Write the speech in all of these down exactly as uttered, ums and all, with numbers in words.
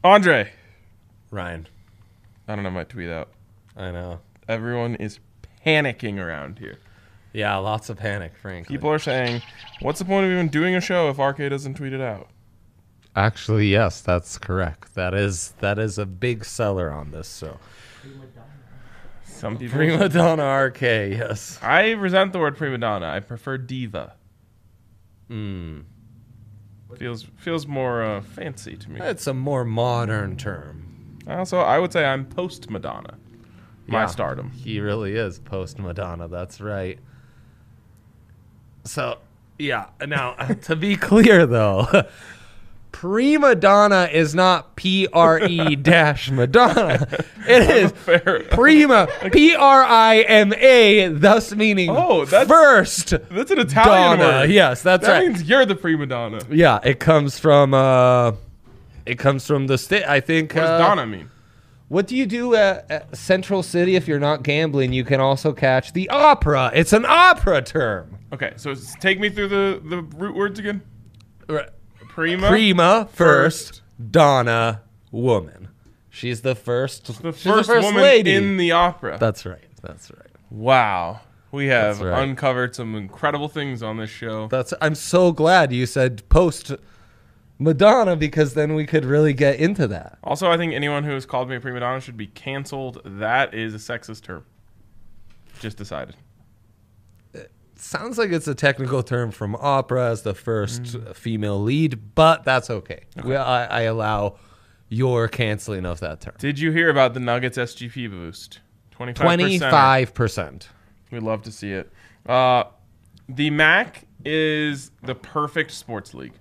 Andre. Ryan. I don't have my tweet out. I know. Everyone is panicking around here. Yeah, lots of panic, frankly. People are saying, what's the point of even doing a show if R K doesn't tweet it out? Actually, yes, that's correct. That is that is a big seller on this. So, Some people. Prima Donna R K, yes. I resent the word prima donna. I prefer diva. Hmm. Feels feels more uh, fancy to me. It's a more modern term. Also, I would say I'm post Madonna. My Yeah, stardom. He really is post Madonna. That's right. So, yeah. Now, to be clear, though, Prima Donna is not P R E dash Madonna. It is Fair. Prima, P R I M A, thus meaning Oh, that's- first That's an Italian Donna. word. Yes, that's that right. means you're the prima donna. Yeah, it comes from, uh, it comes from the state, I think. What does uh, donna mean? What do you do at, at Central City if you're not gambling? You can also catch the opera. It's an opera term. Okay, so s- take me through the, the root words again. Prima. Prima, first, First. Donna, woman. She's the first. The she's first, the first woman lady. in the opera. That's right. That's right. Wow. We have That's right. uncovered some incredible things on this show. That's. I'm so glad you said post Madonna because then we could really get into that. Also, I think anyone who has called me a prima donna should be canceled. That is a sexist term. Just decided. Sounds like it's a technical term from opera as the first female lead, but that's okay. We, I, I allow your canceling of that term. Did you hear about the Nuggets S G P boost? twenty-five percent. Twenty-five percent. We'd love to see it. Uh, the M A C is the perfect sports league.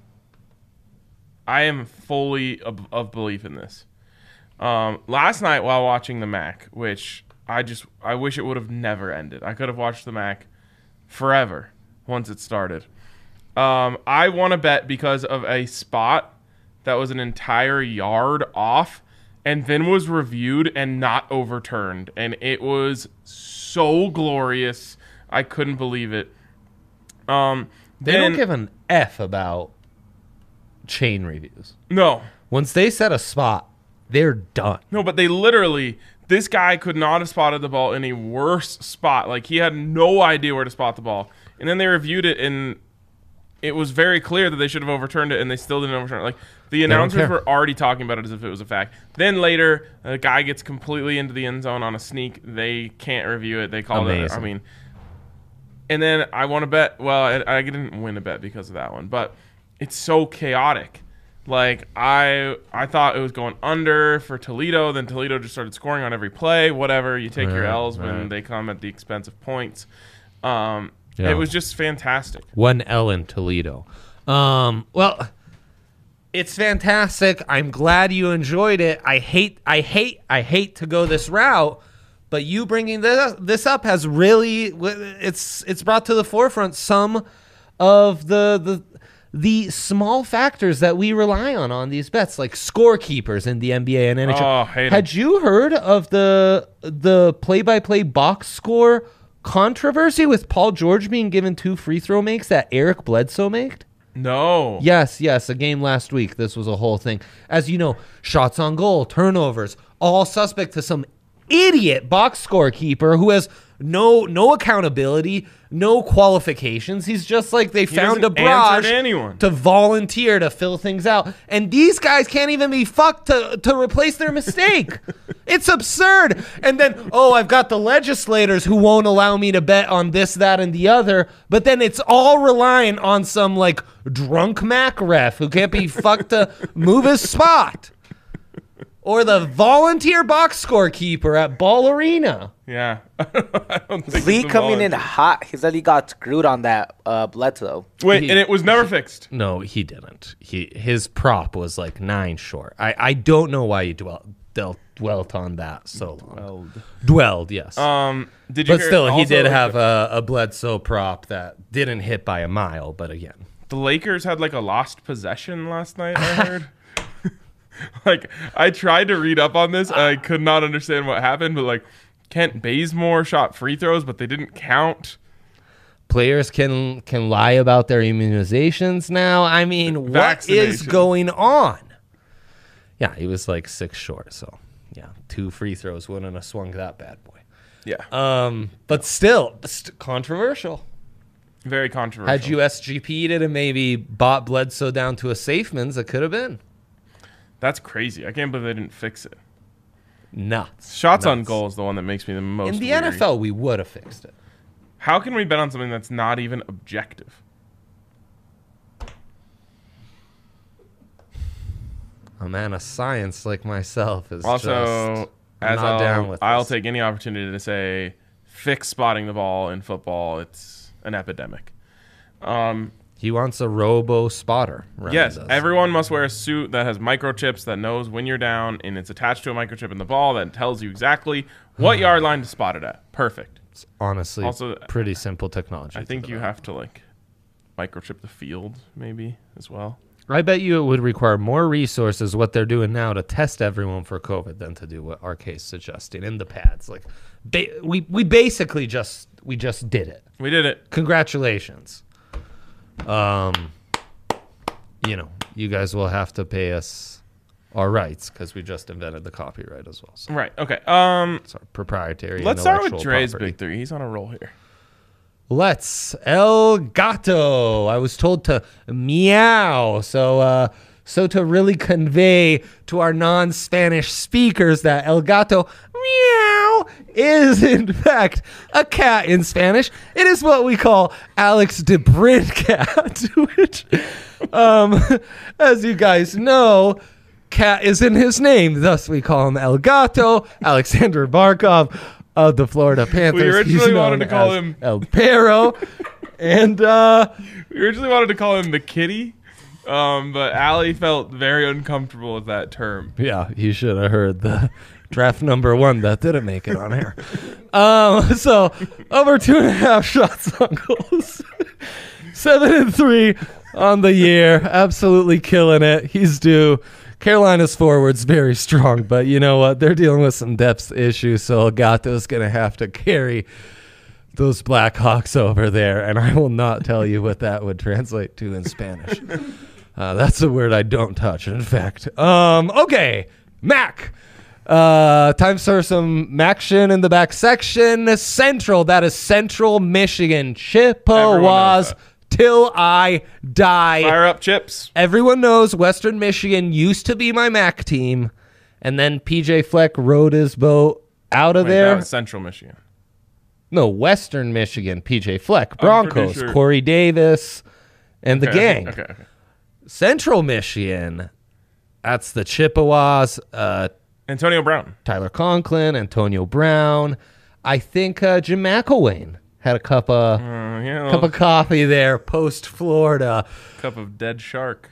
I am fully of, of belief in this. Um, last night while watching the M A C, which I just I wish it would have never ended. I could have watched the M A C forever once it started. Um, I won a bet because of a spot that was an entire yard off and then was reviewed and not overturned. And it was so glorious. I couldn't believe it. Um, They then, don't give an F about chain reviews. No. Once they set a spot, they're done. No, but they literally, this guy could not have spotted the ball in a worse spot. Like, he had no idea where to spot the ball. And then they reviewed it, and it was very clear that they should have overturned it, and they still didn't overturn it. Like, the announcers care. were already talking about it as if it was a fact. Then later, a guy gets completely into the end zone on a sneak. They can't review it. They called it. Amazing. I mean, and then I won a bet. Well, I, I didn't win a bet because of that one, but it's so chaotic. Like, I I thought it was going under for Toledo. Then Toledo just started scoring on every play. Whatever. You take your Right, L's when right. they come at the expense of points. Um, Yeah. It was just fantastic. One L in Toledo. Um, well, it's fantastic. I'm glad you enjoyed it. I hate, I hate, I hate to go this route, but you bringing this this up has really it's it's brought to the forefront some of the the the small factors that we rely on on these bets, like scorekeepers in the N B A and N H L. Oh, hate 'em. Had you heard of the the play-by-play box score controversy with Paul George being given two free throw makes that Eric Bledsoe made? No. Yes, yes, a game last week. This was a whole thing. As you know, shots on goal, turnovers, all suspect to some idiot box scorekeeper who has no no accountability, no qualifications. He's just like they found a doesn't answer barrage to anyone. to volunteer to fill things out. And these guys can't even be fucked to, to replace their mistake. It's absurd. And then, oh, I've got the legislators who won't allow me to bet on this, that, and the other. But then it's all reliant on some like drunk Mac ref who can't be fucked to move his spot. Or the volunteer box scorekeeper at Ball Arena. Yeah. I don't think Lee it's a coming in volunteer. hot. He said he got screwed on that uh, Bledsoe. Wait, He- and it was never fixed. No, he didn't. He his prop was like nine short. I, I don't know why you dwelt dwelt, dwelt on that so long. Dwelled. Dwelled, yes. Um, did you but hear- still, he also, did like, have a, a Bledsoe prop that didn't hit by a mile. But again, the Lakers had like a lost possession last night, I heard. Like, I tried to read up on this. I could not understand what happened, but like, Kent Bazemore shot free throws, but they didn't count. players can can lie about their immunizations now. I mean, what is Vaccination. going on? Yeah, he was like six short. So, yeah, two free throws wouldn't have swung that bad boy. Yeah. Um, but still, st- controversial. Very controversial. Had you S G P'd it and maybe bought Bledsoe down to a Safeman's, it could have been. That's crazy. I can't believe they didn't fix it. Nuts. Shots on Nuts. goal is the one that makes me the most In the weary. N F L, we would have fixed it. How can we bet on something that's not even objective? A man of science like myself is Also, just as not I'll, down with I'll this. take any opportunity to say, fix spotting the ball in football. It's an epidemic. Um, He wants a robo spotter. Ryan yes, does. everyone must wear a suit that has microchips that knows when you're down, and it's attached to a microchip in the ball that tells you exactly what yard line to spot it at. Perfect. It's honestly Also, pretty simple technology. I to think you develop. have to like microchip the field maybe as well. I bet you it would require more resources what they're doing now to test everyone for COVID than to do what our case suggesting in the pads. Like, ba- we we basically just we just did it. We did it. Congratulations. Um, you know, you guys will have to pay us our rights because we just invented the copyright as well. So Right. Okay. Um, it's our proprietary. let's start with intellectual Dre's property. big three. He's on a roll here. Let's El Gato. I was told to meow. So, uh, so to really convey to our non-Spanish speakers that El Gato meow is in fact a cat in Spanish. It is what we call Alex de Cat, which, um, as you guys know, cat is in his name. Thus, we call him El Gato. Alexander Barkov of the Florida Panthers. We originally He's known wanted to call as him- El Perro. And uh, We originally wanted to call him the kitty, um, but Allie felt very uncomfortable with that term. yeah, you should have heard the draft number one that didn't make it on air. Um, so over two and a half shots on goals, seven and three on the year, absolutely killing it. He's due. Carolina's forward's very strong, but you know what? They're dealing with some depth issues, so Gato's going to have to carry those Blackhawks over there, and I will not tell you what that would translate to in Spanish. Uh, that's a word I don't touch, in fact. Um, okay, Mac. Uh, time for some Maction in the back section. Central, that is Central Michigan. Chippewas that. till I die. Fire up chips. Everyone knows Western Michigan used to be my Mac team, and then P J Fleck rode his boat out of Wait, that there. was Central Michigan. No, Western Michigan, P J Fleck, pretty Broncos, sure- Corey Davis, and the Okay, gang. Okay, okay. Central Michigan, that's the Chippewas, uh, Antonio Brown. Tyler Conklin, Antonio Brown. I think uh, Jim McElwain had a cup of Uh, yeah, a cup little of coffee there post Florida. cup of dead shark.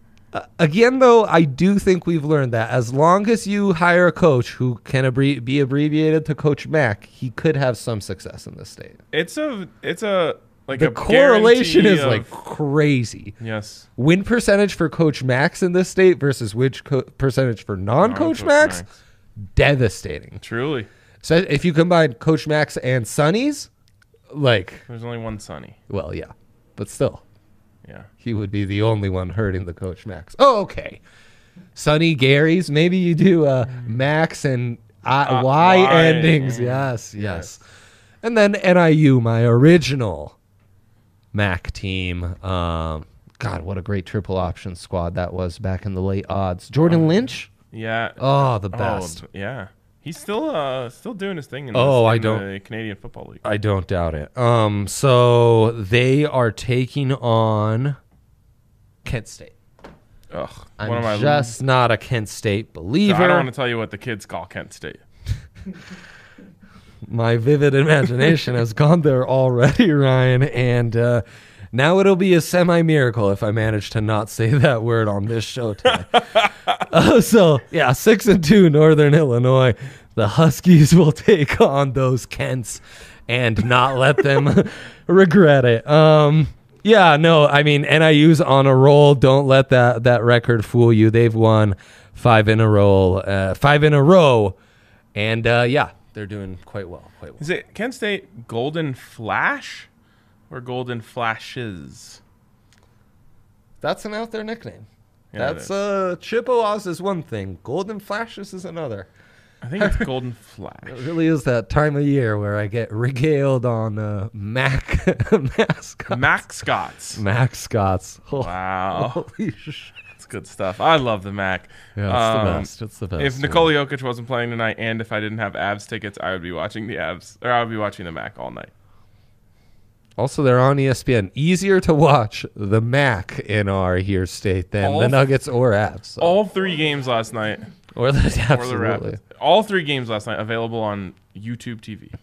Again, though, I do think we've learned that as long as you hire a coach who can abbre- be abbreviated to Coach Mac, he could have some success in this state. It's a, it's a like The a correlation guarantee is of- like crazy. yes. Win percentage for Coach Max in this state versus which co- percentage for non-Coach Non-Coach Max, Max. devastating. Truly, So if you combine Coach Max and Sonny's, like, there's only one Sonny. well, yeah, but still, Yeah. he would be the only one hurting the Coach Max. Oh, okay. Sonny Gary's, maybe you do uh, Max and I, Uh, Y, Y, endings. yeah. Yes, yes. And then N I U, my original Mac team. Um, God, what a great triple option squad that was back in the late odds. Jordan Lynch? Yeah. Oh, the best. Oh, yeah. He's still uh still doing his thing in, Oh, this, I in don't- the Canadian Football League. I don't doubt it. Um, so they are taking on Kent State. Ugh. I'm one of my just not a Kent State believer. I don't want to tell you what the kids call Kent State. My vivid imagination has gone there already, Ryan, and uh, now it'll be a semi-miracle if I manage to not say that word on this show today. uh, so, yeah, six and two, Northern Illinois. The Huskies will take on those Kents and not let them regret it. Um, yeah, no, I mean, N I U's on a roll. Don't let that that record fool you. They've won five in a row, uh, five in a row, and uh, yeah. They're doing quite well, quite well. Is it Kent State Golden Flash or Golden Flashes? That's an out there nickname. Yeah, it That's is. uh, Chippewas is one thing. Golden Flashes is another. I think it's Golden Flash. It really is that time of year where I get regaled on uh, Mac mascots. Mac Scots. Mac Scots. Oh, Wow. holy shit. That's good stuff. I love the Mac. Yeah, it's Um, the best. It's the best. If Nikola Jokic wasn't playing tonight, and if I didn't have Avs tickets, I would be watching the Avs, or I would be watching the Mac all night. Also, they're on E S P N. Easier to watch the Mac in our here state than All the f- Nuggets or Avs. so. All three games last night, or the or the absolutely. Rapids. All three games last night available on YouTube T V.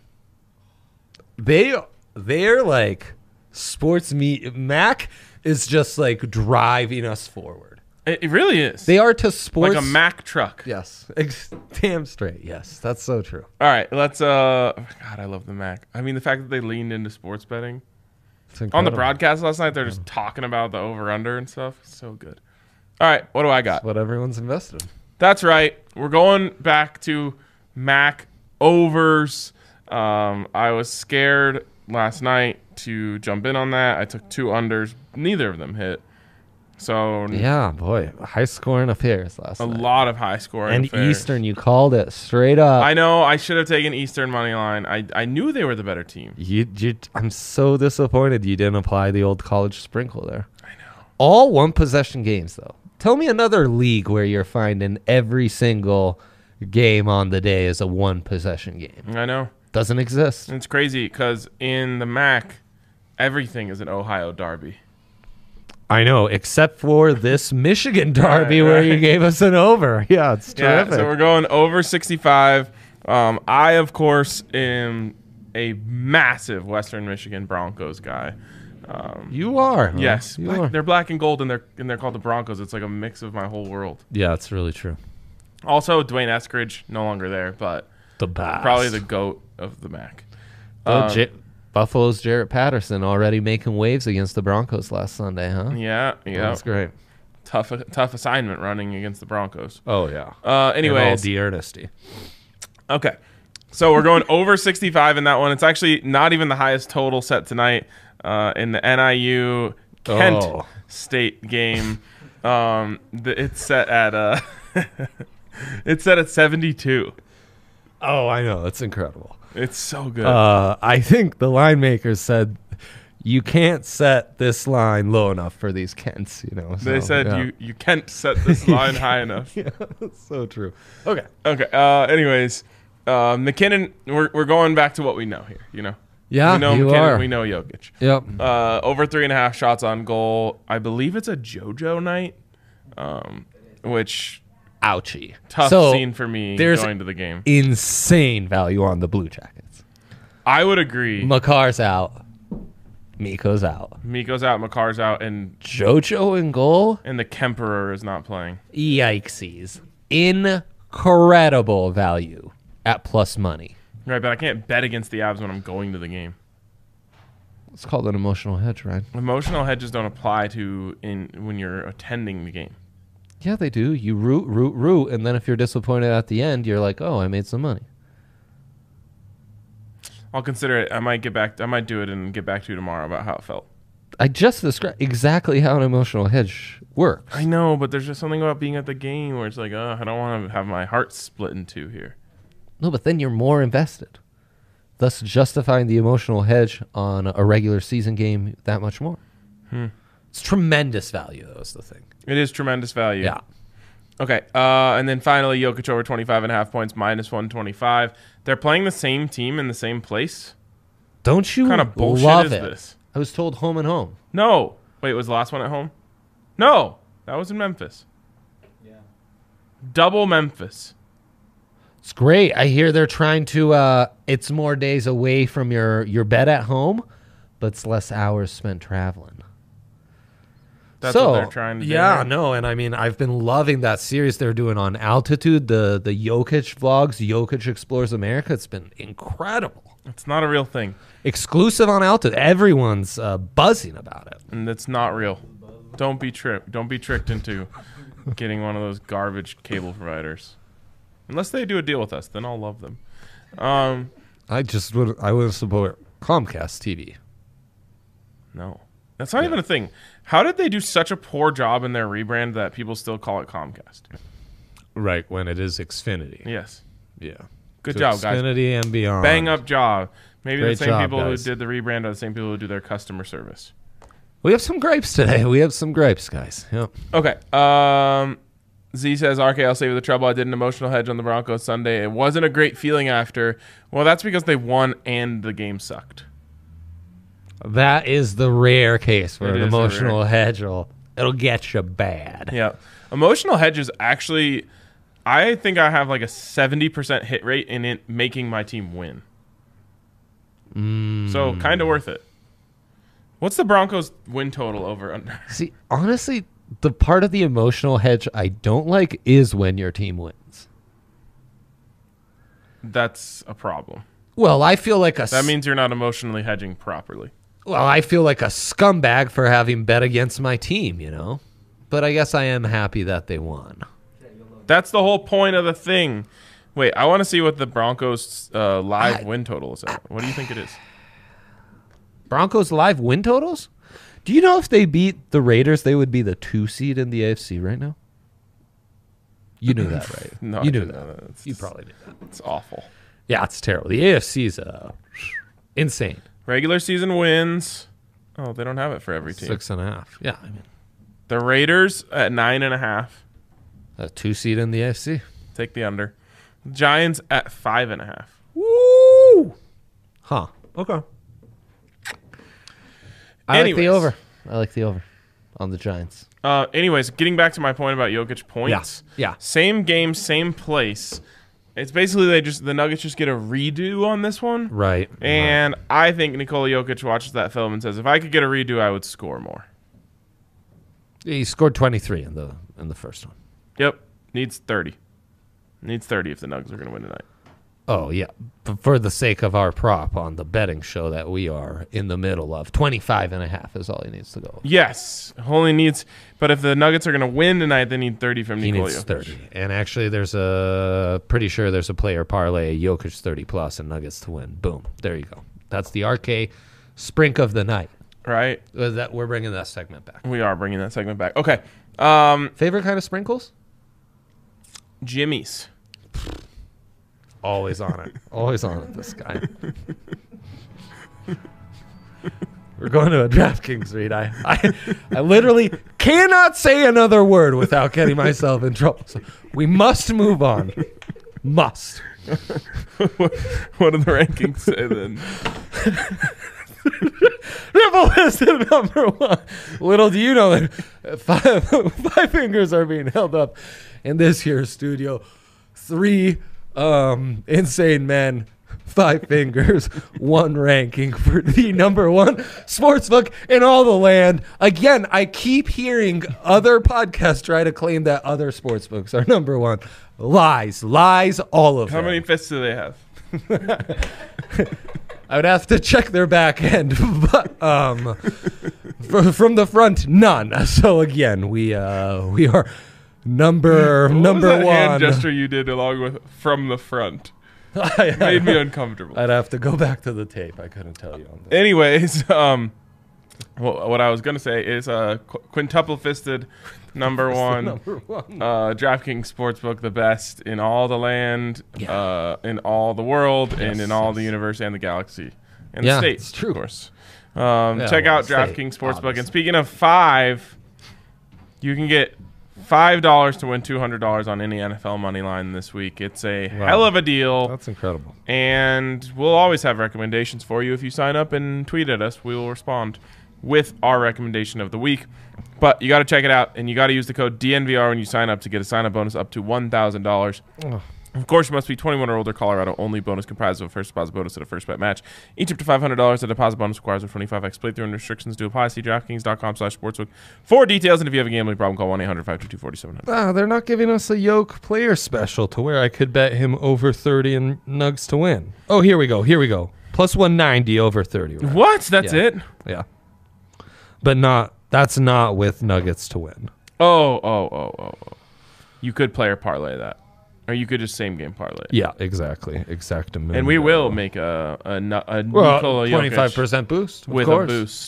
They they're like sports meet. Mac is just like driving us forward. It, it really is. They are to sports like a Mac truck. Yes, ex- damn straight. Yes, that's so true. All right, let's. Uh, God, I love the Mac. I mean, the fact that they leaned into sports betting It's on the incredible. broadcast last night, they're just talking about the over under and stuff. So good. All right, what do I got? That's what everyone's invested in. That's right. We're going back to Mac overs. Um, I was scared last night to jump in on that. I took two unders. Neither of them hit. So Yeah, boy, high scoring affairs last a night. lot of high scoring. And affairs. Eastern, you called it straight up. I know. I should have taken Eastern money line. I I knew they were the better team. You, you, I'm so disappointed you didn't apply the old college sprinkle there. I know. All one possession games, though. Tell me another league where you're finding every single game on the day is a one possession game. I know. Doesn't exist. It's crazy because in the Mac, everything is an Ohio derby. I know, except for this Michigan derby Right, where right. you gave us an over. Yeah, it's Yeah, terrific. so we're going over sixty-five. Um, I, of course, am a massive Western Michigan Broncos guy. Um, you are. huh? yes, You black- are. they're black and gold, and they're and they're called the Broncos. It's like a mix of my whole world. Yeah, it's really true. Also, Dwayne Eskridge no longer there, but The best. probably the goat of the Mac. Oh, Um, J- Buffalo's Jarrett Patterson already making waves against the Broncos last Sunday, huh? Yeah, yeah, That's great. tough tough assignment running against the Broncos. Oh, yeah. Uh, In all anyways, the earnesty. okay. So we're going over sixty-five in that one. It's actually not even the highest total set tonight uh, in the N I U Kent Oh. State game. Um, the, it's set at uh, it's set at seventy-two. Oh, I know. It's incredible. It's so good. Uh, I think the line makers said you can't set this line low enough for these Kents, you know. they so, said yeah. you you can't set this line high enough. Yeah, that's so true. Okay. Okay. Uh, anyways, uh, McKinnon. We're we're going back to what we know here. You know. Yeah, we know you McKinnon. are. We know Jokic. Yep. Uh, over three and a half shots on goal. I believe it's a JoJo night, um, which Ouchie. tough so scene for me there's going to the game. insane value on the Blue Jackets. I would agree. Makar's out. Miko's out. Miko's out, Makar's out, and Jojo in goal? and the Kemperer is not playing. Yikesies. Incredible value at plus money. Right, but I can't bet against the Avs when I'm going to the game. It's called an emotional hedge, right? Emotional hedges don't apply to in when you're attending the game. Yeah, they do. You root, root, root, and then if you're disappointed at the end, you're like, oh, I made some money. I'll consider it. I might get back. I might do it and get back to you tomorrow about how it felt. I just described exactly how an emotional hedge works. I know, but there's just something about being at the game where it's like, oh, I don't want to have my heart split in two here. No, but then you're more invested, thus justifying the emotional hedge on a regular season game that much more. Hmm. It's tremendous value, though, is the thing. It is tremendous value. Yeah. Okay. Uh, and then finally, Jokic over twenty-five and a half points, minus one twenty-five. They're playing the same team in the same place. Don't you What kind of bullshit love is it? this? I was told home and home. No. Wait, was the last one at home? No. That was in Memphis. Yeah. Double Memphis. It's great. I hear they're trying to. Uh, it's more days away from your your bed at home, but it's less hours spent traveling. That's so, what they're trying to do. Yeah, here. no, and I mean, I've been loving that series they're doing on Altitude, the the Jokic vlogs, Jokic Explores America. It's been incredible. It's not a real thing. Exclusive on Altitude. Everyone's uh, buzzing about it. And it's not real. Don't be tricked. Don't be tricked into getting one of those garbage cable providers. Unless they do a deal with us, then I'll love them. Um, I just would. I would support Comcast T V. no. That's not even a thing. How did they do such a poor job in their rebrand that people still call it Comcast? Right, when it is Xfinity. Yes. Yeah. Good To job, guys. Xfinity and beyond. Bang up job. Maybe Great the same job, people guys. who did the rebrand are the same people who do their customer service. We have some gripes today. We have some gripes, guys. Yep. Okay. Um, Z says, R K, I'll save you the trouble. I did an emotional hedge on the Broncos Sunday. It wasn't a great feeling after. Well, that's because they won and the game sucked. That is the rare case where It an is a emotional rare- hedge will it'll get you bad. Yeah. Emotional hedges actually, I think I have like a seventy percent hit rate in it making my team win. Mm. So kind of worth it. What's the Broncos win total over under? See, honestly, the part of the emotional hedge I don't like is when your team wins. That's a problem. Well, I feel like a That means you're not emotionally hedging properly. well, I feel like a scumbag for having bet against my team, you know. But I guess I am happy that they won. That's the whole point of the thing. Wait, I want to see what the Broncos uh, live I- win total is at. What do you think it is? Broncos live win totals? Do you know if they beat the Raiders, they would be the two seed in the A F C right now? You knew that, right? No, you I knew didn't that. know that. It's- You probably knew that. It's awful. Yeah, it's terrible. The A F C is uh, insane. Regular season wins. Oh, they don't have it for every team. Six and a half. Yeah, I mean, The Raiders at nine and a half. a two seed in the A F C. Take the under. Giants at five and a half. Woo! Huh. Okay. I like the Anyways. over. I like the over on the Giants. Uh, anyways, getting back to my point about Jokic points. Yeah. Yeah. Same game, same place. It's basically they just the Nuggets just get a redo on this one. Right. And I think Nikola Jokic watches that film and says, if I could get a redo, I would score more. He scored twenty-three in the in the first one. Yep. Needs thirty. Needs thirty if the Nuggets are going to win tonight. Oh, yeah. But for the sake of our prop on the betting show that we are in the middle of, twenty-five and a half is all he needs to go. Yes. Only needs, but if the Nuggets are going to win tonight, they need thirty from He Nikola needs Jokic. thirty. And actually, there's a pretty sure there's a player parlay, Jokic thirty plus and Nuggets to win. Boom. There you go. That's the R K sprink of the night. Right? Uh, That we're bringing that segment back. We are bringing that segment back. Okay. Um, Favorite kind of sprinkles? Jimmy's. Always on it. Always on it, this guy. We're going to a DraftKings read. I, I, I literally cannot say another word without getting myself in trouble. So we must move on. Must. What do the rankings say then? Ripple is at number one. Little do you know that five, five fingers are being held up in this here studio. Three um, insane men, five fingers, one ranking for the number one sportsbook in all the land. Again, I keep hearing other podcasts try to claim that other sportsbooks are number one. Lies, lies, all of How them. many fists do they have? I would have to check their back end, but um, fr- from the front, none. So again, we uh, we are number What number was that one. hand gesture you did along with from the front? I, Made me uncomfortable. I'd have to go back to the tape. I couldn't tell you on that. Anyways, um, what, what I was gonna say is uh, qu- quintuple fisted number one. Number one. Uh, DraftKings Sportsbook, the best in all the land, Yeah. uh, in all the world, and Yes, in all yes. the universe and the galaxy, and Yeah, the state, it's true. of course. Um, Yeah, check well, out state, DraftKings Sportsbook. obviously. And speaking of five, you can get five dollars to win two hundred dollars on any N F L money line this week. It's a Wow. hell of a deal. That's incredible. And we'll always have recommendations for you. If you sign up and tweet at us, we will respond with our recommendation of the week. But you got to check it out, and you got to use the code D N V R when you sign up to get a sign-up bonus up to one thousand dollars. Oh. Of course, you must be twenty-one or older. Colorado only. Bonus comprised of a first deposit bonus and a first bet match. Each up to five hundred dollars. The deposit bonus requires a twenty-five x playthrough and restrictions do apply. See DraftKings.com slash sportsbook for details. And if you have a gambling problem, call one eight hundred five two two four seven zero zero. Ah, they're not giving us a yoke player special to where I could bet him over thirty and Nugs to win. Oh, here we go. Here we go. Plus one ninety over thirty. Right? What? That's Yeah. it? Yeah. But not that's not with Nuggets to win. Oh, oh, oh, oh, oh. You could player parlay that. Or you could just same game parlay it. Yeah, exactly. Exactamente. And we will make a a, nu- a well, Nikola Jokic twenty-five percent boost of with course. a boost.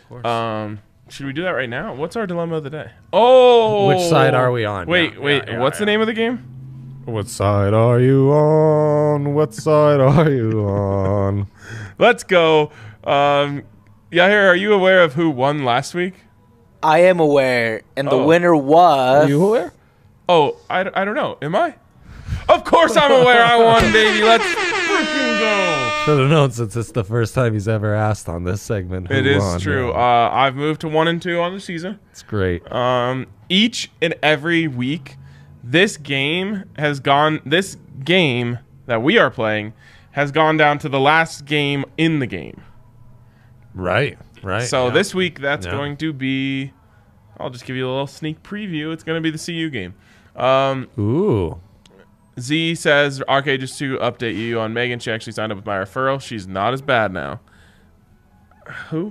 course. Um, should we do that right now? What's our dilemma of the day? Oh, Which side are we on? Wait, Yeah, wait. yeah, yeah, what's the yeah. name of the game? What side are you on? What side are you on? Let's go. Um, Yahir, are you aware of who won last week? I am aware, and the Oh. winner was. Are you aware? Oh, I, I don't know. Am I? Of course I'm aware I won, baby. Let's freaking go. Should have known since it's the first time he's ever asked on this segment. Who It is won. true. Yeah. Uh, I've moved to one and two on the season. It's great. Um, each and every week, this game has gone. This game that we are playing has gone down to the last game in the game. Right. Right. So yeah. this week, that's Yeah. going to be. I'll just give you a little sneak preview. It's going to be the C U game. Um, Ooh. Z says, R K, just to update you on Megan, she actually signed up with my referral. She's not as bad now. Who?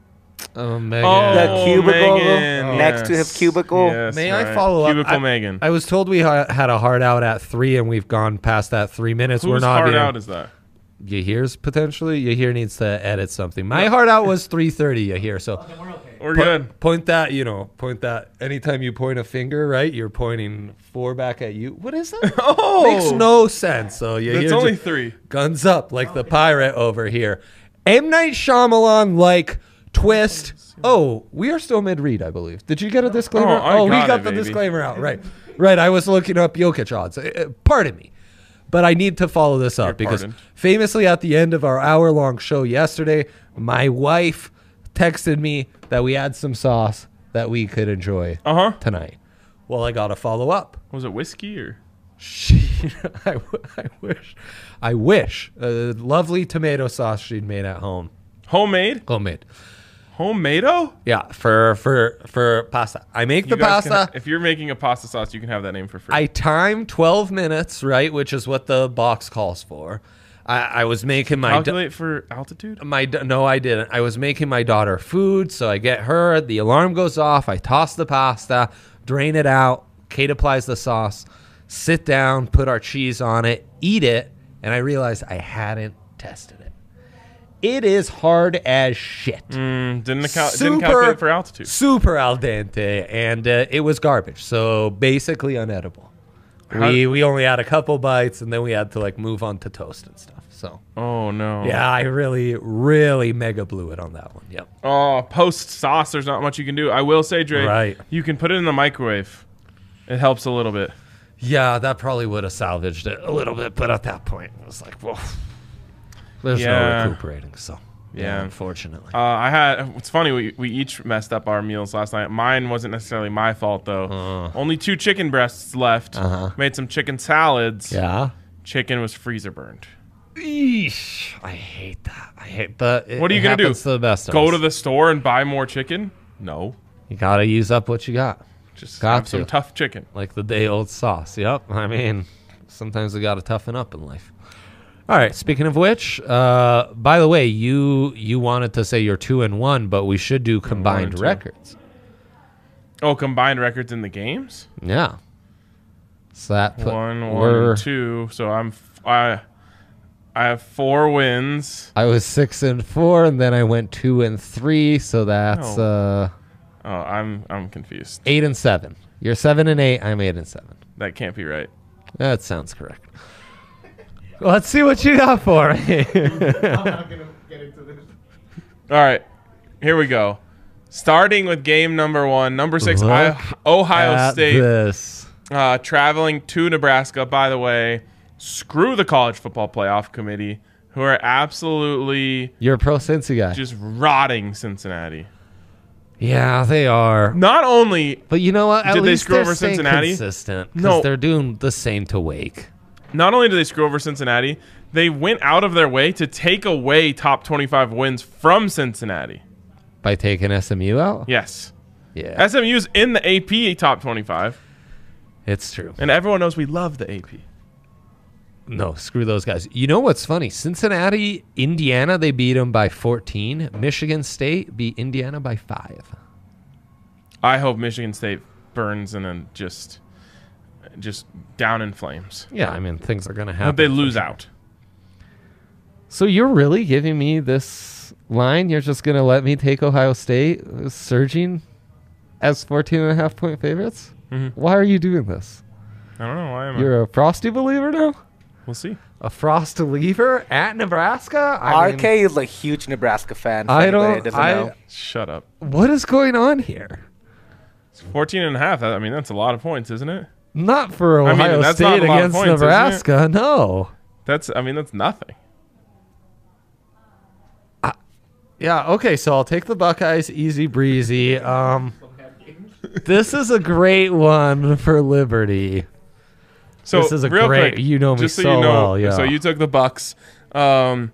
Oh, Megan. Oh, The cubicle Megan, next to his yes. cubicle. Yes, May I right. follow up? Cubicle I- Megan. I was told we ha- had a hard out at three, and we've gone past that three minutes. Whose We're not hard even. out is that? Yahir's potentially. Yahir needs to edit something. My hard out was three thirty. Yahir. So We're po- good. point that. You know, point that. Anytime you point a finger, right, you're pointing four back at you. What is that? Oh, Makes no sense. So Yahir It's only just- three. guns up like the pirate over here. M. Night Shyamalan like twist. Oh, we are still mid-read, I believe. Did you get a disclaimer? Oh, I we got got it, the baby. disclaimer out. Right. Right. I was looking up Jokic odds. Uh, uh, Pardon me. But I need to follow this up You're because pardoned. famously at the end of our hour-long show yesterday, my wife texted me that we had some sauce that we could enjoy Uh huh. tonight. Well, I got to follow up. Was it whiskey or? She, I, w- I wish, I wish, a lovely tomato sauce she'd made at home, Homemade? homemade. Homemade-o? Yeah, for for for pasta. I make You the guys can pasta. ha- if you're making a pasta sauce, you can have that name for free. I time twelve minutes, right, which is what the box calls for. I, I was making my da- Calculate for altitude? my da- no, I didn't. I was making my daughter food, so I get her. The alarm goes off. I toss the pasta, drain it out. Kate applies the sauce. Sit down, put our cheese on it, eat it, and I realized I hadn't tested it. It is hard as shit. Mm, didn't, cal- Super- didn't calculate for altitude. Super al dente, and uh, it was garbage. So basically unedible. We we only had a couple bites, and then we had to like move on to toast and stuff. So Oh, no. yeah, I really really mega blew it on that one. Yep. Oh, post sauce, there's not much you can do. I will say, Dre, Right. you can put it in the microwave. It helps a little bit. Yeah, that probably would have salvaged it a little bit, but at that point, it was like, well, there's Yeah. no recuperating. So yeah, Yeah. unfortunately. Uh, I had. It's funny. We we each messed up our meals last night. Mine wasn't necessarily my fault though. Uh. Only two chicken breasts left. Uh-huh. Made some chicken salads. yeah. Chicken was freezer burned. Eesh, I hate that. I hate. But it, What are you it gonna do? happens to the best of Go us. to the store and buy more chicken? No. You gotta use up what you got. Just Got have some to. tough chicken. Like the day old sauce. Yep. I mean, sometimes we got to toughen up in life. All right. Speaking of which, uh, by the way, you you wanted to say you're two and one, but we should do combined two. records. Oh, combined records in the games? Yeah. So that put, One, one, we're- and two. So I'm f- I I have four wins. I was six and four, and then I went two and three. So that's Oh. uh, Oh, I'm I'm confused. eight and seven. You're seven and eight. I'm eight and seven. That can't be right. That sounds correct. Let's see what you got for me. All right, here we go. Starting with game number one, number six, Look I- Ohio At State, This. uh, traveling to Nebraska. By the way, screw the College Football Playoff Committee, who are absolutely You're a pro Cincy guy. just rotting Cincinnati. Yeah, they are. Not only, But you know what? At Did they least screw they're over staying Cincinnati? consistent. No. No, they're doing the same to Wake. not only did they screw over Cincinnati, they went out of their way to take away top twenty-five wins from Cincinnati. By taking S M U out? Yes, Yeah, S M U's in the A P top twenty-five, it's true. and everyone knows we love the A P. No, screw those guys. You know what's funny? Cincinnati, Indiana, they beat them by fourteen. Michigan State beat Indiana by five. I hope Michigan State burns and then just, just down in flames. Yeah, I mean, things are going to I happen. hope they lose out. So you're really giving me this line, you're just going to let me take Ohio State uh, surging as fourteen and a half point favorites? Mhm. Why are you doing this? I don't know. Why am I? You're a Frosty believer now? We'll see. A Frost believer at Nebraska? I R mean, K is a huge Nebraska fan. for I anybody don't- that doesn't I- know. Shut up. what is going on here? It's fourteen and a half. I mean, that's a lot of points, isn't it? Not for I mean, Ohio that's not State a lot of against points, isn't it? Nebraska. No. That's. I mean, that's nothing. Yeah, okay, so I'll take the Buckeyes easy breezy. Um, this is a great one for Liberty. So This is a real great- quick, you know me just so, so you know, well, yeah. So you took the Bucks. Um,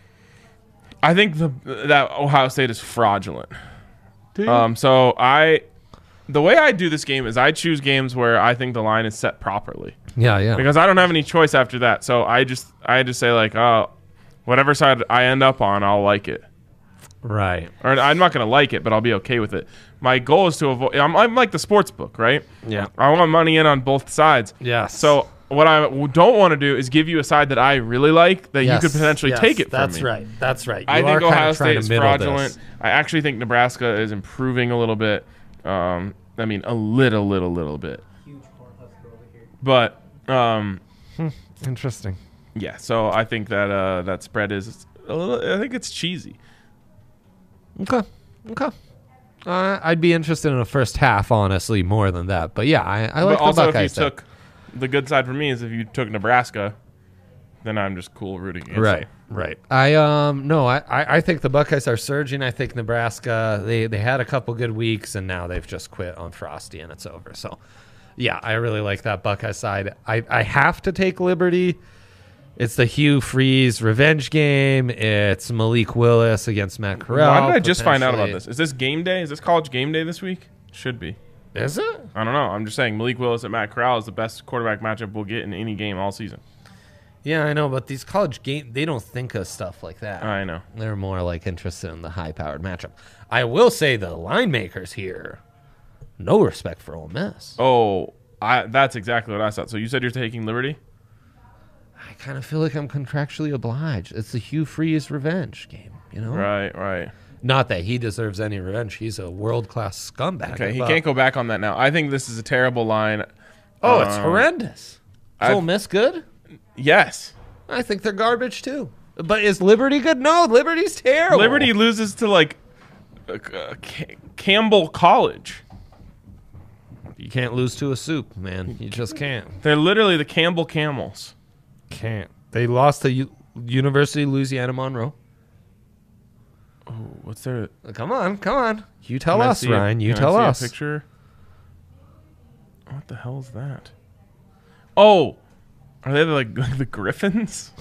I think the that Ohio State is fraudulent. Um, so I, the way I do this game is I choose games where I think the line is set properly Yeah, yeah. because I don't have any choice after that. So I just I just say like, oh, whatever side I end up on, I'll like it. Right. Or I'm not gonna like it, but I'll be okay with it. My goal is to avoid. I'm, I'm like the sports book, right? Yeah. I want money in on both sides. Yes. So what I don't want to do is give you a side that I really like that Yes, you could potentially yes, take it from That's me. right. That's right. I You think are kinda Ohio trying State to is middle fraudulent. this. I actually think Nebraska is improving a little bit. Um, I mean, a little, little, little bit. But um, Interesting. yeah, so I think that uh, that spread is a little. I think it's cheesy. Okay. Okay. Uh, I'd be interested in a first half, honestly, more than that. But yeah, I, I like but also, the if you Buckeyes. there. took the good side for me is if you took Nebraska, then I'm just cool rooting against Right, you. right. I um no, I, I I think the Buckeyes are surging. I think Nebraska they they had a couple good weeks and now they've just quit on Frosty and it's over. So yeah, I really like that Buckeye side. I I have to take Liberty. It's the Hugh Freeze revenge game. It's Malik Willis against Matt Corral. Why did I just find out about potentially. this? Is this game day? Is this college game day this week? Should be. Is it? I don't know. I'm just saying Malik Willis at Matt Corral is the best quarterback matchup we'll get in any game all season. Yeah, I know, but these college game they don't think of stuff like that. I know. They're more like interested in the high-powered matchup. I will say the line makers here, no respect for Ole Miss. Oh, I that's exactly what I thought. So you said you're taking Liberty? I kind of feel like I'm contractually obliged. It's the Hugh Freeze revenge game, you know? Right, right. Not that he deserves any revenge. He's a world-class scumbag. Okay, he but- can't go back on that now. I think this is a terrible line. Oh, it's Um, horrendous. Is I've- Ole Miss good? Yes. I think they're garbage, too. But is Liberty good? No, Liberty's terrible. Liberty loses to like uh, uh, Ca- Campbell College. You can't lose to a soup, man. You just can't. They're literally the Campbell Camels. Can't. They lost to U- University of Louisiana Monroe. Oh, what's their? Come on, come on. You tell Can I us, see a- Ryan. You can I tell see a us. picture. What the hell is that? Oh, are they like, like the Griffins?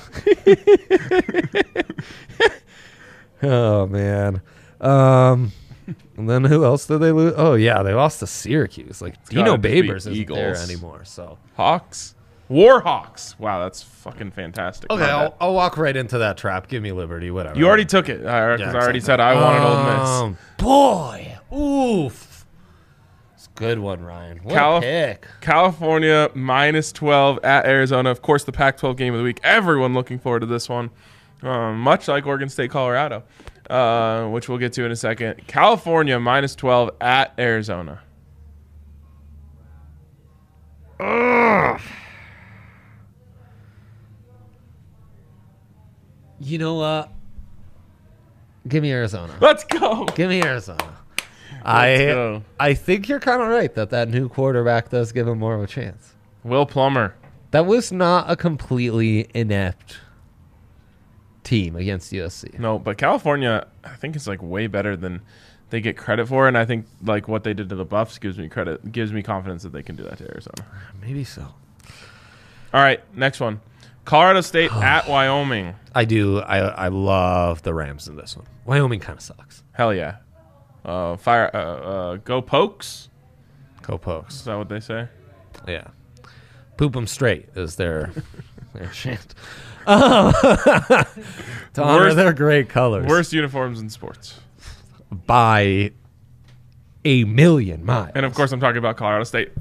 Oh man. Um, and then who else did they lose? Oh yeah, they lost to Syracuse. Like Dino gotta just be Babers isn't there Eagles. anymore. So Hawks, Warhawks. Wow, that's fucking fantastic. okay, My I'll, bad. I'll walk right into that trap. Give me Liberty, whatever. You already took it because Yeah, I already exactly. said I wanted Ole Miss. Um, boy, oof. It's a good one, Ryan. What Calif- a pick. California minus twelve at Arizona. Of course, the Pac twelve game of the week. Everyone looking forward to this one. Um, much like Oregon State, Colorado, uh, which we'll get to in a second. California minus twelve at Arizona. You know what? Give me Arizona. Let's go. Give me Arizona. I go. I think you're kind of right that that new quarterback does give him more of a chance. Will Plummer. That was not a completely inept team against U S C. No, but California, I think it's like way better than they get credit for, and I think like what they did to the Buffs gives me credit, gives me confidence that they can do that to Arizona. Maybe so. All right, next one. Colorado State at Wyoming. I do. I I love the Rams in this one. Wyoming kind of sucks. Hell yeah. Uh, fire. Uh, uh, go Pokes. Go Is Pokes. that what they say? Yeah. Poop them straight is their their chant. Um, to honor Worst- their great colors. Worst uniforms in sports. by a million miles. And of course, I'm talking about Colorado State.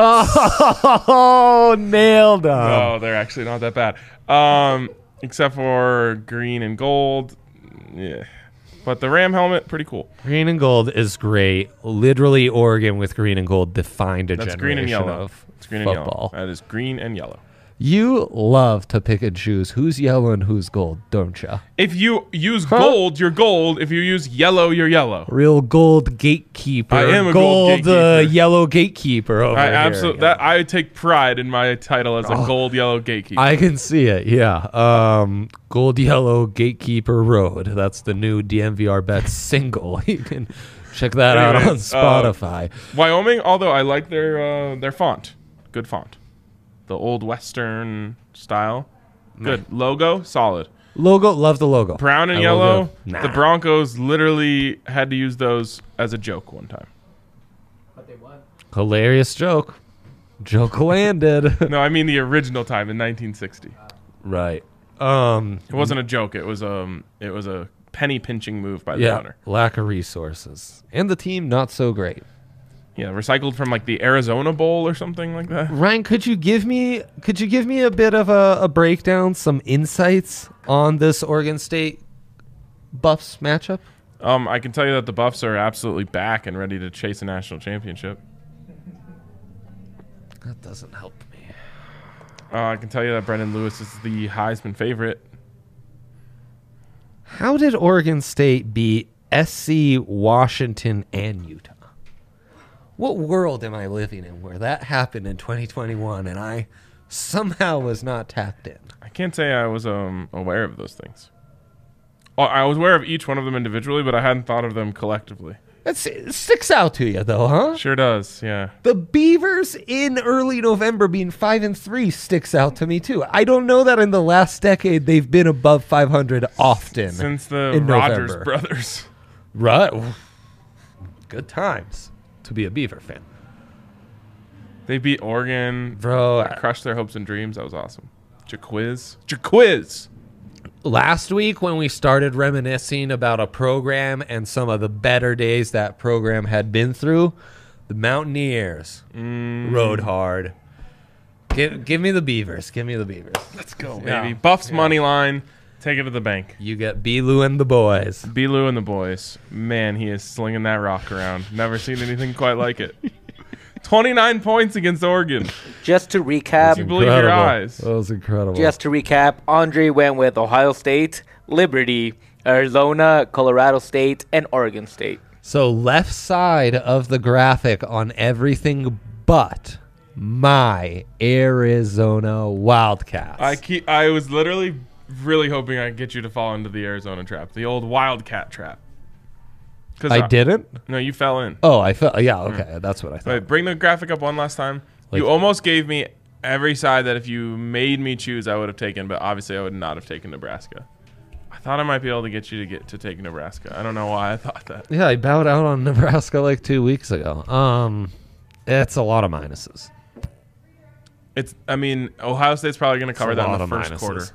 Oh, nailed them. Oh, they're actually not that bad. Um, except for green and gold. Yeah. But the Ram helmet, pretty cool. Green and gold is great. Literally, Oregon with green and gold defined a That's generation green and yellow. of It's green football. and yellow. That is green and yellow. You love to pick and choose who's yellow and who's gold, don't you? If you use gold, you're gold. If you use yellow, you're yellow. Real gold gatekeeper. I am a gold gold uh, gatekeeper. yellow gatekeeper over I here. absolutely that I take pride in my title as a gold yellow gatekeeper. I can see it, yeah. Um, Gold Yellow Gatekeeper Road. That's the new D M V R Bets single. You can check that out on Anyways, uh, Spotify. Wyoming, although I like their uh, their font, good font, the old Western style, good logo, solid. Logo, love the logo. Brown and I will yellow. go, nah. The Broncos literally had to use those as a joke one time. Hilarious joke. Joke landed. No, I mean the original time in nineteen sixty. Right. Um, It wasn't a joke. It was um it was a penny pinching move by the yeah, owner. lack of resources. And the team, not so great. Yeah, recycled from like the Arizona Bowl or something like that. Ryan, could you give me could you give me a bit of a, a breakdown, some insights on this Oregon State Buffs matchup? Um, I can tell you that the Buffs are absolutely back and ready to chase a national championship. That doesn't help me. Uh, I can tell you that Brendan Lewis is the Heisman favorite. How did Oregon State beat S C, Washington, and Utah? What world am I living in where that happened in twenty twenty-one and I somehow was not tapped in? I can't say I was um aware of those things. Oh, I was aware of each one of them individually, but I hadn't thought of them collectively. That's, it sticks out to you, though, huh? Sure does, yeah. The Beavers in early November being five and three sticks out to me too. I don't know that in the last decade they've been above five hundred often. Since the in Rogers November. brothers. Right. Good times to be a Beaver fan. They beat Oregon. Bro, I- crushed their hopes and dreams. That was awesome. Jaquiz. Jaquiz! Last week when we started reminiscing about a program and some of the better days that program had been through, the Mountaineers Mm. rode hard. Give, give me the Beavers. Give me the Beavers. Let's go, Yeah. baby. Buffs Yeah. money line. Take it to the bank. You get B-Lou and the boys. B-Lou and the boys. Man, he is slinging that rock around. Never seen anything quite like it. twenty-nine points against Oregon. Just to recap, You believe your Incredible. eyes. That was incredible. just to recap, Andre went with Ohio State, Liberty, Arizona, Colorado State, and Oregon State. So left side of the graphic on everything but my Arizona Wildcats. I keep. I was literally really hoping I could get you to fall into the Arizona trap, the old Wildcat trap. 'Cause I didn't? No, you fell in. Oh, I felt. Yeah, okay. That's what I thought. Wait, bring the graphic up one last time. Like- you almost gave me every side that if you made me choose, I would have taken, but obviously I would not have taken Nebraska. I thought I might be able to get you to get to take Nebraska. I don't know why I thought that. Yeah, I bowed out on Nebraska like two weeks ago. Um, It's a lot of minuses. It's. I mean, Ohio State's probably going to cover It's a that in lot the of first minuses. quarter.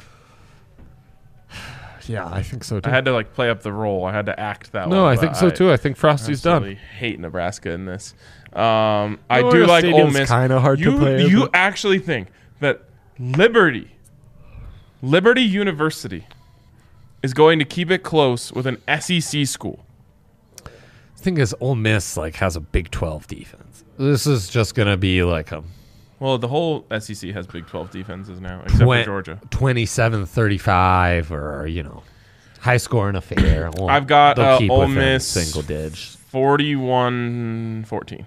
Yeah, I think so too. I had to like play up the role. I had to act that no, one. I but think so too. I think Frosty's absolutely done. hate Nebraska in this. Um, I No, do Ohio like Ole Stadium's Miss. kinda hard to you, play, You but- actually think that Liberty, Liberty University, is going to keep it close with an S E C school? The thing is, Ole Miss like has a Big twelve defense. This is just gonna be like a Well, the whole S E C has Big twelve defenses now, except twen- for Georgia. twenty-seven thirty-five or you know, high scoring affair. Well, I've got they'll uh, keep Ole within Miss single digits. forty-one fourteen.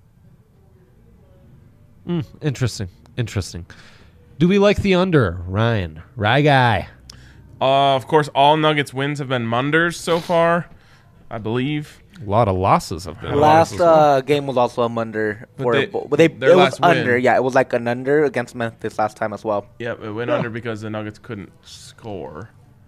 Mm, interesting, interesting. Do we like the under, Ryan? Rye guy. Uh, of course, all Nuggets wins have been Munders so far, I believe. A lot of losses have been. Last uh, game was also a under. But For, they- but they, their it was last win- under. Yeah, it was like an under against Memphis last time as well. Yep, it went under because the Nuggets couldn't score.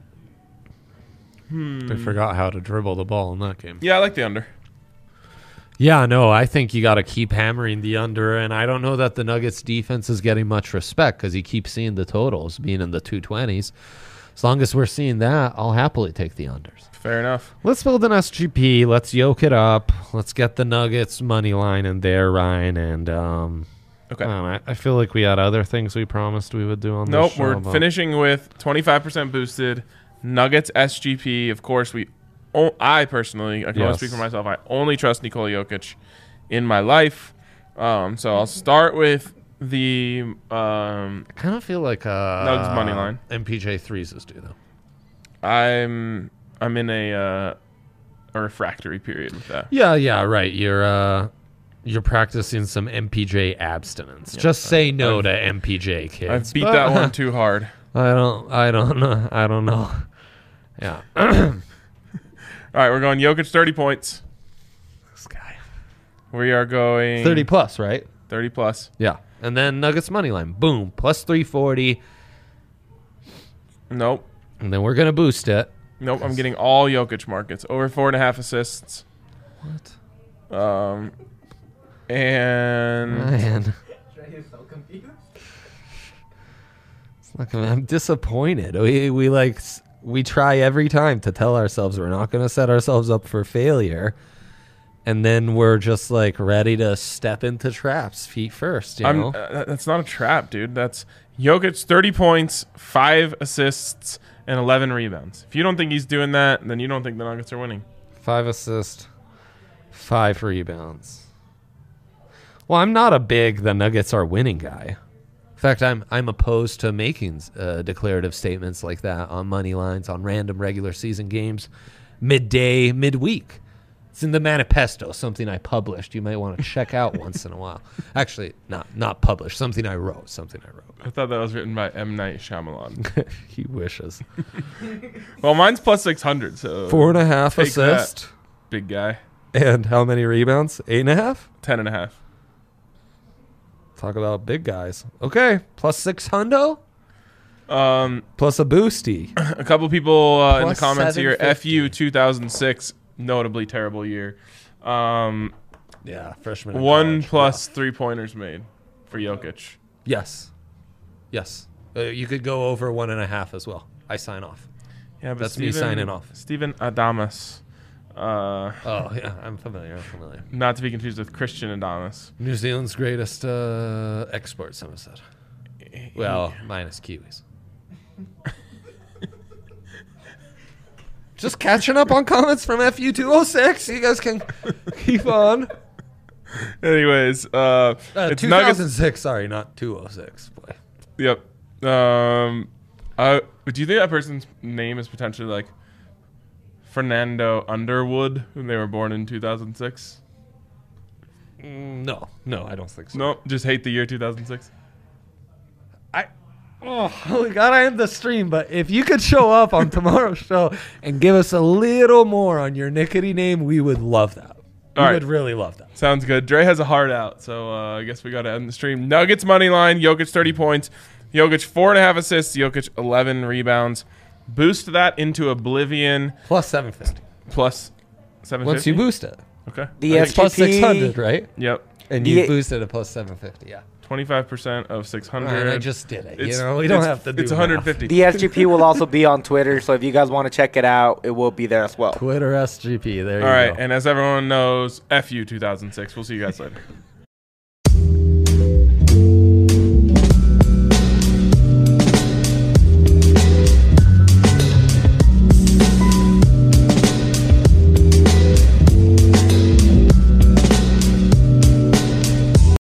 They forgot how to dribble the ball in that game. Yeah, I like the under. Yeah, no, I think you got to keep hammering the under, and I don't know that the Nuggets defense is getting much respect because you keep seeing the totals being in the two twenties. As long as we're seeing that, I'll happily take the unders. Fair enough. Let's build an S G P. Let's yoke it up. Let's get the Nuggets money line in there, Ryan. And um, Okay. man, I, I feel like we had other things we promised we would do on Nope, this show. we're but- finishing with twenty-five percent boosted Nuggets S G P. Of course, we o- I personally, I can only Yes. speak for myself. I only trust Nikola Jokic in my life. Um, so I'll start with the um, I kind of feel like uh, Nugs money line. M P J threes is due though. I'm I'm in a uh, a refractory period with that. Yeah, yeah, right. You're uh, you're practicing some M P J abstinence. Just say no I've- to M P J, kids. I've beat But- that one too hard. I don't. I don't know. I don't know. Yeah. All right, we're going Jokic thirty points. This guy. We are going Thirty plus, right? thirty plus. Yeah. And then Nuggets money line. Boom. Plus three forty. Nope. And then we're gonna boost it. Nope. I'm getting all Jokic markets over four and a half assists. What? Um, and Man. It's not gonna, I'm disappointed. We we like s- we try every time to tell ourselves we're not gonna set ourselves up for failure, and then we're just like ready to step into traps feet first. You I'm. know. Uh, that's not a trap, dude. That's Jokic thirty points, five assists, and eleven rebounds. If you don't think he's doing that, then you don't think the Nuggets are winning. Five assists, five rebounds. Well, I'm not a big the Nuggets are winning guy. In fact, I'm I'm opposed to making uh, declarative statements like that on money lines on random regular season games, midday, midweek. It's in the manifesto, something I published. You might want to check out once in a while. Actually, not not published. Something I wrote. Something I wrote. I thought that was written by M. Night Shyamalan. He wishes. Well, mine's plus six hundred, so Four and a half take that, assists. big guy. And how many rebounds? Eight and a half? Ten and a half. Talk about big guys. Okay. Plus six hundo? Um, Plus a boosty. a couple people uh, in the Plus comments here. seven fifty. F U two thousand six, notably terrible year. Um, Yeah, freshman. in one college. plus three pointers made for Jokic. Yes. Yes. Uh, you could go over one and a half as well. I sign off. Yeah, but That's me Steven- signing off. Steven Adamas. Uh, Oh, yeah. I'm familiar. I'm familiar. not to be confused with Christian Adamas. New Zealand's greatest uh, export, someone said. Well, minus Kiwis. Just catching up on comments from F U two oh six. You guys can keep on. Anyways, uh, Uh, it's two thousand six, Nuggets. sorry, not two oh six. Boy. Yep. Um, uh, do you think that person's name is potentially like Fernando Underwood, when they were born in two thousand six? Mm, no, no, I don't think so. No, just hate the year two thousand six. I, oh, we gotta end the stream, but if you could show up on tomorrow's show and give us a little more on your Nickety name, we would love that. We All right. would really love that. Sounds good. Dre has a heart out, so uh, I guess we got to end the stream. Nuggets money line. Jokic thirty points. Jokic four and a half assists. Jokic eleven rebounds. Boost that into oblivion. Plus seven fifty. Plus seven fifty. Once you boost it. Okay. The It's plus S G P, six hundred, right? Yep. And The- you boosted it plus seven fifty, yeah. twenty-five percent of six hundred. And I just did it. You It's- know, we don't it's- have to do It's one hundred fifty. the S G P will also be on Twitter, so if you guys want to check it out, it will be there as well. Twitter S G P, there All you right. go. And as everyone knows, F U two thousand six. We'll see you guys later.